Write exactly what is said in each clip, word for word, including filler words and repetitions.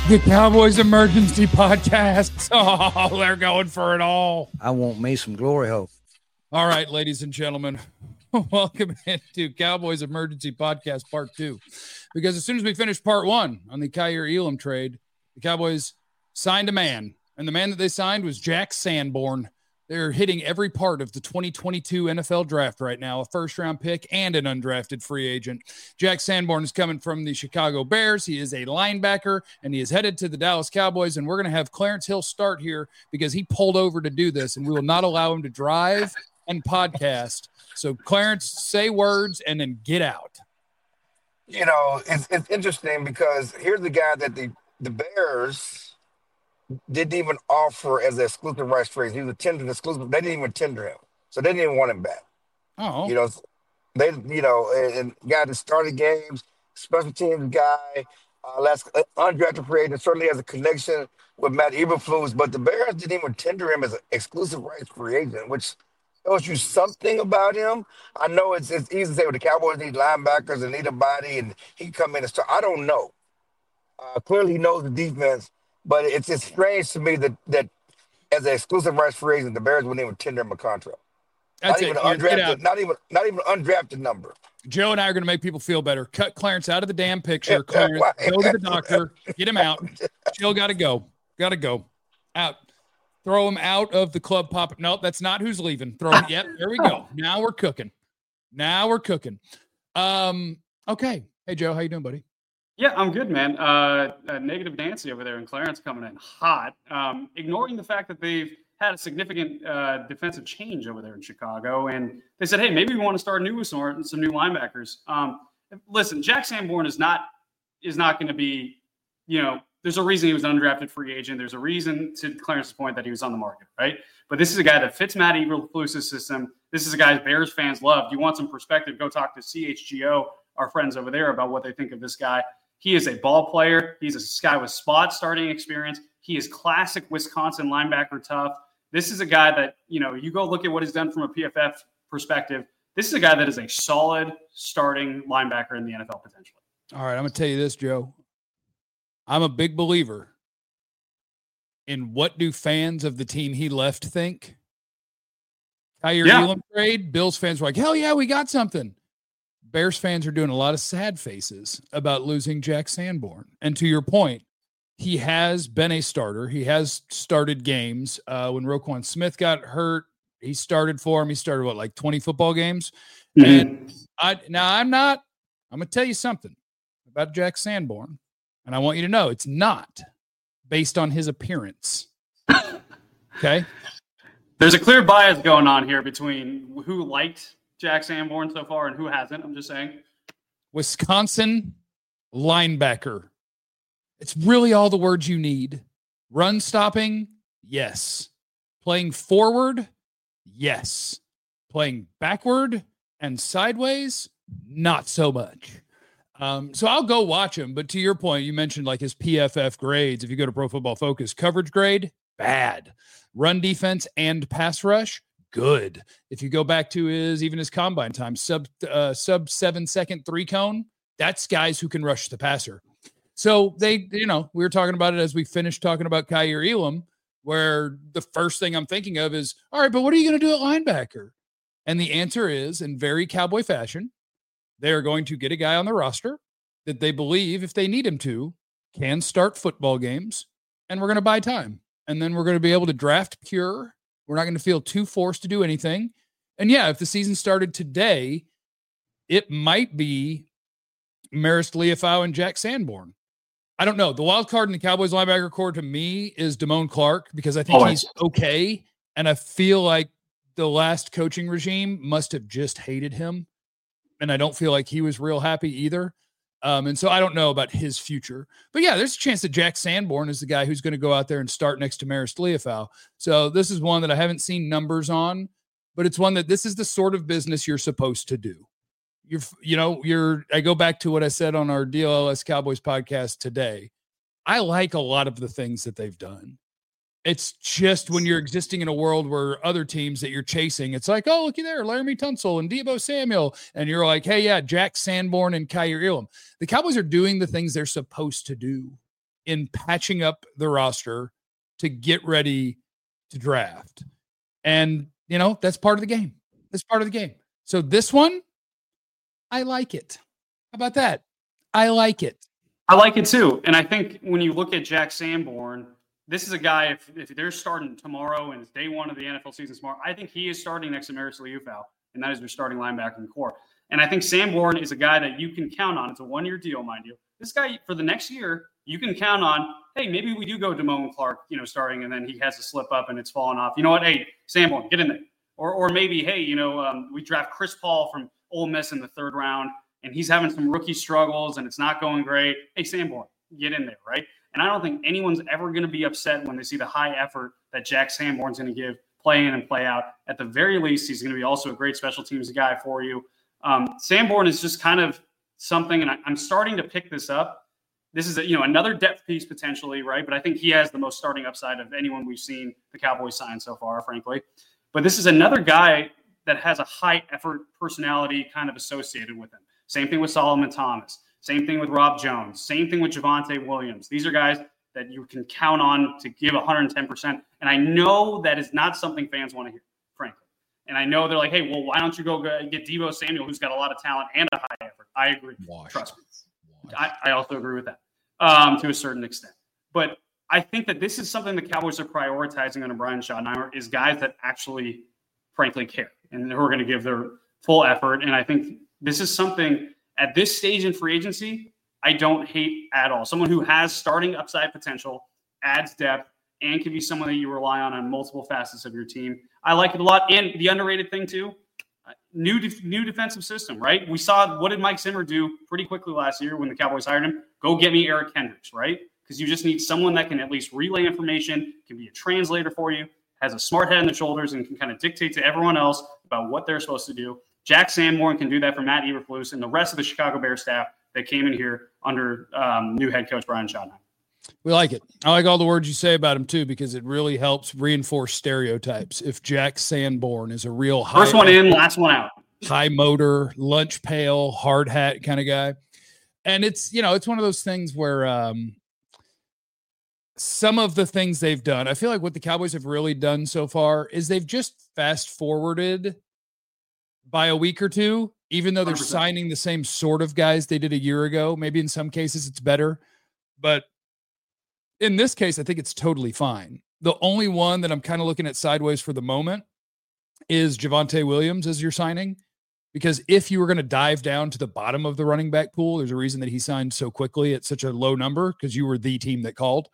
The Cowboys Emergency Podcast. Oh, they're going for it all. I want me some glory hole. All right, ladies and gentlemen, welcome into Cowboys Emergency Podcast Part two. Because as soon as we finished Part one on the Kaiir Elam trade, the Cowboys signed a man. And the man that they signed was Jack Sanborn. They're hitting every part of the twenty twenty-two N F L draft right now, a first-round pick and an undrafted free agent. Jack Sanborn is coming from the Chicago Bears. He is a linebacker, and he is headed to the Dallas Cowboys, and we're going to have Clarence Hill start here because he pulled over to do this, and we will not allow him to drive and podcast. So, Clarence, say words and then get out. You know, it's, it's interesting because here's the guy that the, the Bears – didn't even offer as an exclusive rights trade. He was a tendered exclusive. They didn't even tender him, so they didn't even want him back. Oh, you know, they, you know, and, and guy that started games, special teams guy, uh, last uh, undrafted free agent, certainly has a connection with Matt Eberflus, but the Bears didn't even tender him as an exclusive rights free agent, which tells you something about him. I know it's it's easy to say, well, the Cowboys need linebackers and need a body, and he can come in and start. I don't know. Uh, clearly, he knows the defense. But it's just strange to me that that as an exclusive rights free agent, the Bears wouldn't even tender him a contract. That's not even it. an undrafted, not even not even an undrafted number. Joe and I are going to make people feel better. Cut Clarence out of the damn picture. Clarence, go to the doctor. Get him out. Jill got to go. Got to go. Out. Throw him out of the club pop. No, that's not who's leaving. Throw him. Yep, there we go. Now we're cooking. Now we're cooking. Um. Okay. Hey, Joe. How you doing, buddy? Yeah, I'm good, man. Uh, uh, negative Nancy over there and Clarence coming in hot, um, ignoring the fact that they've had a significant uh, defensive change over there in Chicago. And they said, hey, maybe we want to start new with some, some new linebackers. Um, listen, Jack Sanborn is not is not going to be, you know, there's a reason he was an undrafted free agent. There's a reason, to Clarence's point, that he was on the market, right? But this is a guy that fits Matt Eberflus' system. This is a guy Bears fans love. You want some perspective, go talk to C H G O, our friends over there, about what they think of this guy. He is a ball player. He's a guy with spot starting experience. He is classic Wisconsin linebacker tough. This is a guy that, you know, you go look at what he's done from a P F F perspective. This is a guy that is a solid starting linebacker in the N F L potentially. All right, I'm going to tell you this, Joe. I'm a big believer in what do fans of the team he left think. Kaiir Yeah. Elam trade, Bills fans were like, hell yeah, we got something. Bears fans are doing a lot of sad faces about losing Jack Sanborn. And to your point, he has been a starter. He has started games. Uh, when Roquan Smith got hurt, he started for him. He started, what, like twenty football games? Mm-hmm. And I now I'm not, I'm going to tell you something about Jack Sanborn. And I want you to know it's not based on his appearance. Okay? There's a clear bias going on here between who liked Jack Sanborn so far and who hasn't. I'm just saying. Wisconsin linebacker. It's really all the words you need. Run stopping, yes. Playing forward, yes. Playing backward and sideways, not so much. Um, so I'll go watch him. But to your point, you mentioned like his P F F grades. If you go to Pro Football Focus, coverage grade, bad. Run defense and pass rush, good. If you go back to his, even his combine time, sub uh, sub seven second three cone, that's guys who can rush the passer. So they, you know, we were talking about it as we finished talking about Kaiir Elam, where the first thing I'm thinking of is, all right, but what are you going to do at linebacker? And the answer is, in very Cowboy fashion, they are going to get a guy on the roster that they believe, if they need him to, can start football games, and we're going to buy time. And then we're going to be able to draft pure. We're not going to feel too forced to do anything. And yeah, if the season started today, it might be Marist Liufau and Jack Sanborn. I don't know. The wild card in the Cowboys linebacker core to me is Damone Clark, because I think Always. he's okay. And I feel like the last coaching regime must have just hated him. And I don't feel like he was real happy either. Um, and so I don't know about his future. But yeah, there's a chance that Jack Sanborn is the guy who's going to go out there and start next to Marist Liufau. So this is one that I haven't seen numbers on, but it's one that this is the sort of business you're supposed to do. You're, you know, you're, I go back to what I said on our D L L S Cowboys podcast today. I like a lot of the things that they've done. It's just when you're existing in a world where other teams that you're chasing, it's like, oh, looky there, Laramie Tunsil and Deebo Samuel. And you're like, hey, yeah, Jack Sanborn and Kaiir Elam. The Cowboys are doing the things they're supposed to do in patching up the roster to get ready to draft. And, you know, that's part of the game. That's part of the game. So this one, I like it. How about that? I like it. I like it too. And I think when you look at Jack Sanborn, this is a guy, if, if they're starting tomorrow and it's day one of the N F L season tomorrow, I think he is starting next to Maris Liufau, and that is their starting linebacker in the core. And I think Sanborn is a guy that you can count on. It's a one-year deal, mind you. This guy, for the next year, you can count on, hey, maybe we do go Damone Clark, you know, starting, and then he has to slip up and it's fallen off. You know what? Hey, Sanborn, get in there. Or or maybe, hey, you know, um, we draft Chris Paul from Ole Miss in the third round, and he's having some rookie struggles, and it's not going great. Hey, Sanborn, get in there, right? And I don't think anyone's ever going to be upset when they see the high effort that Jack Sanborn's going to give, play in and play out. At the very least, he's going to be also a great special teams guy for you. Um, Sanborn is just kind of something, and I, I'm starting to pick this up. This is a, you know, another depth piece potentially, right? But I think he has the most starting upside of anyone we've seen the Cowboys sign so far, frankly. But this is another guy that has a high effort personality kind of associated with him. Same thing with Solomon Thomas. Same thing with Rob Jones. Same thing with Javonte Williams. These are guys that you can count on to give one hundred ten percent. And I know that is not something fans want to hear, frankly. And I know they're like, hey, well, why don't you go get Deebo Samuel, who's got a lot of talent and a high effort? I agree. Wash. Trust me. I, I also agree with that um, to a certain extent. But I think that this is something the Cowboys are prioritizing under Brian Schottenheimer is guys that actually, frankly, care and who are going to give their full effort. And I think this is something at this stage in free agency, I don't hate at all. Someone who has starting upside potential, adds depth, and can be someone that you rely on on multiple facets of your team. I like it a lot. And the underrated thing, too, uh, new def- new defensive system, right? We saw what did Mike Zimmer do pretty quickly last year when the Cowboys hired him? Go get me Eric Kendricks, right? Because you just need someone that can at least relay information, can be a translator for you, has a smart head on the shoulders, and can kind of dictate to everyone else about what they're supposed to do. Jack Sanborn can do that for Matt Eberflus and the rest of the Chicago Bears staff that came in here under um, new head coach Brian Schottenheimer. We like it. I like all the words you say about him, too, because it really helps reinforce stereotypes. If Jack Sanborn is a real high First one in, last one out. High motor, lunch pail, hard hat kind of guy. And it's, you know, it's one of those things where um, some of the things they've done, I feel like what the Cowboys have really done so far is they've just fast forwarded by a week or two, even though they're one hundred percent signing the same sort of guys they did a year ago. Maybe in some cases it's better, but in this case, I think it's totally fine. The only one that I'm kind of looking at sideways for the moment is Javonte Williams as your signing, because if you were going to dive down to the bottom of the running back pool, there's a reason that he signed so quickly at such a low number, because you were the team that called.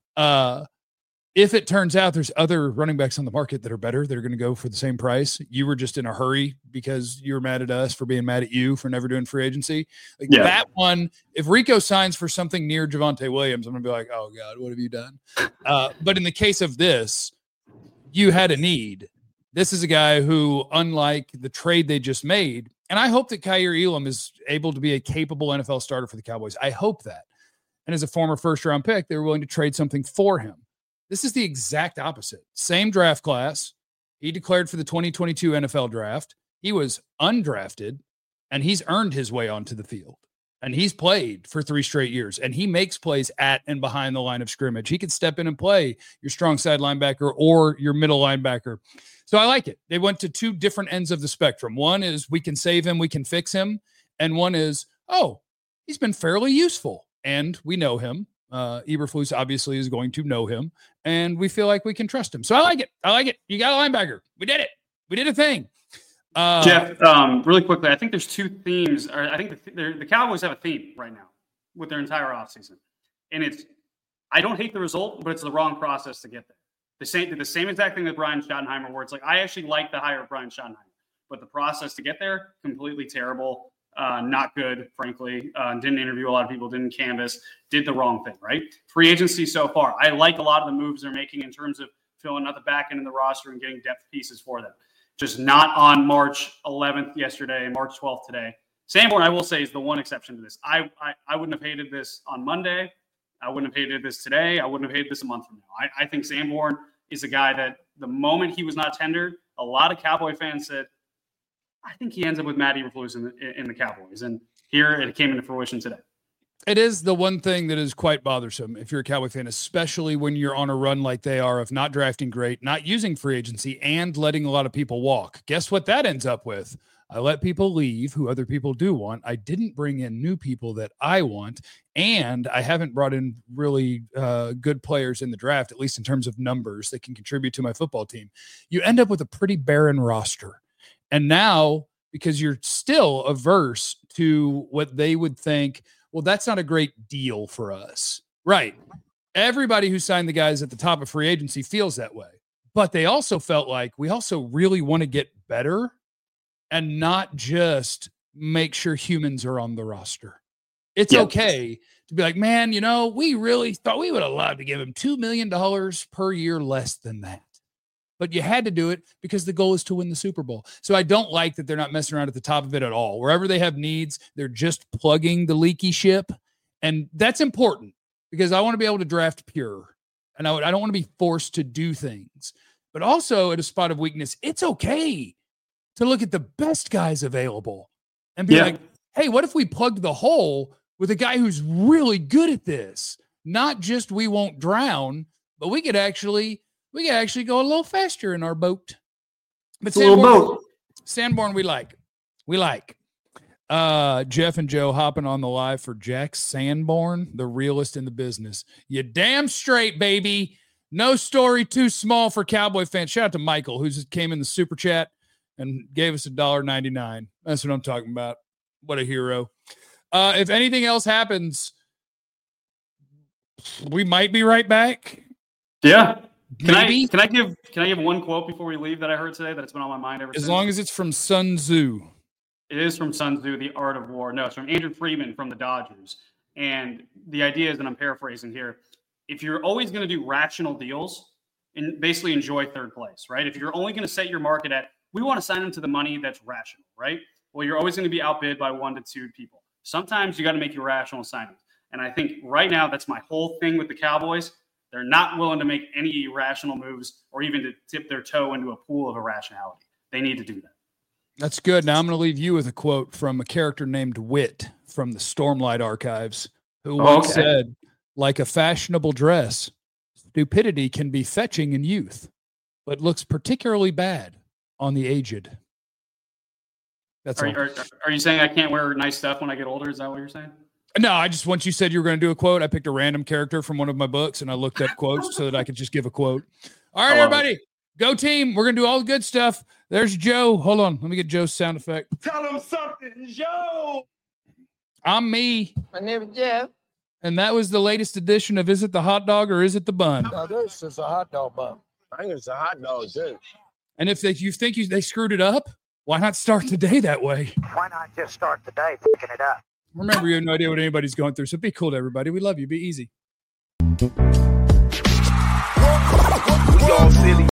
Uh, If it turns out there's other running backs on the market that are better, that are going to go for the same price, you were just in a hurry because you were mad at us for being mad at you for never doing free agency. Like yeah. That one, if Rico signs for something near Javonte Williams, I'm going to be like, oh, God, what have you done? Uh, but in the case of this, you had a need. This is a guy who, unlike the trade they just made, and I hope that Kaiir Elam is able to be a capable N F L starter for the Cowboys. I hope that. And as a former first-round pick, they were willing to trade something for him. This is the exact opposite. Same draft class. He declared for the twenty twenty-two N F L draft. He was undrafted, and he's earned his way onto the field. And he's played for three straight years, and he makes plays at and behind the line of scrimmage. He could step in and play your strong side linebacker or your middle linebacker. So I like it. They went to two different ends of the spectrum. One is we can save him, we can fix him. And one is, oh, he's been fairly useful, and we know him. Uh, Eberflus obviously is going to know him, and we feel like we can trust him. So I like it. I like it. You got a linebacker. We did it. We did a thing. Uh, Jeff, um, really quickly, I think there's two themes. Or I think the, the Cowboys have a theme right now with their entire offseason. And it's, I don't hate the result, but it's the wrong process to get there. The same, the same exact thing with Brian Schottenheimer, where it's like, I actually like the hire of Brian Schottenheimer, but the process to get there, completely terrible. Uh, not good, frankly. Uh, didn't interview a lot of people, didn't canvas, did the wrong thing, right? Free agency so far. I like a lot of the moves they're making in terms of filling out the back end of the roster and getting depth pieces for them. Just not on March eleventh yesterday, March twelfth today. Sanborn, I will say, is the one exception to this. I, I, I wouldn't have hated this on Monday. I wouldn't have hated this today. I wouldn't have hated this a month from now. I, I think Sanborn is a guy that the moment he was not tendered, a lot of Cowboy fans said, I think he ends up with Matt Eberflus in the, in the Cowboys. And here it came into fruition today. It is the one thing that is quite bothersome if you're a Cowboy fan, especially when you're on a run like they are of not drafting great, not using free agency, and letting a lot of people walk. Guess what that ends up with? I let people leave who other people do want. I didn't bring in new people that I want, and I haven't brought in really uh, good players in the draft, at least in terms of numbers that can contribute to my football team. You end up with a pretty barren roster. And now, because you're still averse to what they would think, well, that's not a great deal for us. Right. Everybody who signed the guys at the top of free agency feels that way. But they also felt like we also really want to get better and not just make sure humans are on the roster. It's yep. okay to be like, man, you know, we really thought we would have loved to give him two million dollars per year less than that. But you had to do it because the goal is to win the Super Bowl. So I don't like that they're not messing around at the top of it at all. Wherever they have needs, they're just plugging the leaky ship. And that's important because I want to be able to draft pure. And I, would, I don't want to be forced to do things. But also at a spot of weakness, it's okay to look at the best guys available and be yeah. like, hey, what if we plugged the hole with a guy who's really good at this? Not just we won't drown, but we could actually... We can actually go a little faster in our boat. But Sanborn, boat. Sanborn, we like. We like. Uh, Jeff and Joe hopping on the live for Jack Sanborn, the realest in the business. You damn straight, baby. No story too small for Cowboy fans. Shout out to Michael, who came in the super chat and gave us a dollar ninety-nine. That's what I'm talking about. What a hero. Uh, if anything else happens, we might be right back. Yeah. Can Maybe. I can I give can I give one quote before we leave that I heard today that's been on my mind ever as since? long as it's from Sun Tzu. It is from Sun Tzu, The Art of War. No, it's from Andrew Friedman from the Dodgers. And the idea is, and I'm paraphrasing here, if you're always going to do rational deals and basically enjoy third place, right? If you're only going to set your market at, we want to sign them to the money that's rational, right? Well, you're always going to be outbid by one to two people. Sometimes you got to make irrational signings. And I think right now that's my whole thing with the Cowboys. They're not willing to make any irrational moves or even to tip their toe into a pool of irrationality. They need to do that. That's good. Now I'm going to leave you with a quote from a character named Wit from the Stormlight Archives, who oh, once okay. said, like a fashionable dress, stupidity can be fetching in youth, but looks particularly bad on the aged. That's are, all. Are, are you saying I can't wear nice stuff when I get older? Is that what you're saying? No, I just, once you said you were going to do a quote, I picked a random character from one of my books and I looked up quotes so that I could just give a quote. All right, everybody, it. Go team. We're going to do all the good stuff. There's Joe. Hold on. Let me get Joe's sound effect. Tell him something, Joe. I'm me. My name is Jeff. And that was the latest edition of Is It the Hot Dog or Is It the Bun? No, this is a hot dog bun. I think it's a hot dog, too. And if they, you think you, they screwed it up, why not start the day that way? Why not just start the day picking it up? Remember, you have no idea what anybody's going through, so be cool to everybody. We love you. Be easy. We all silly.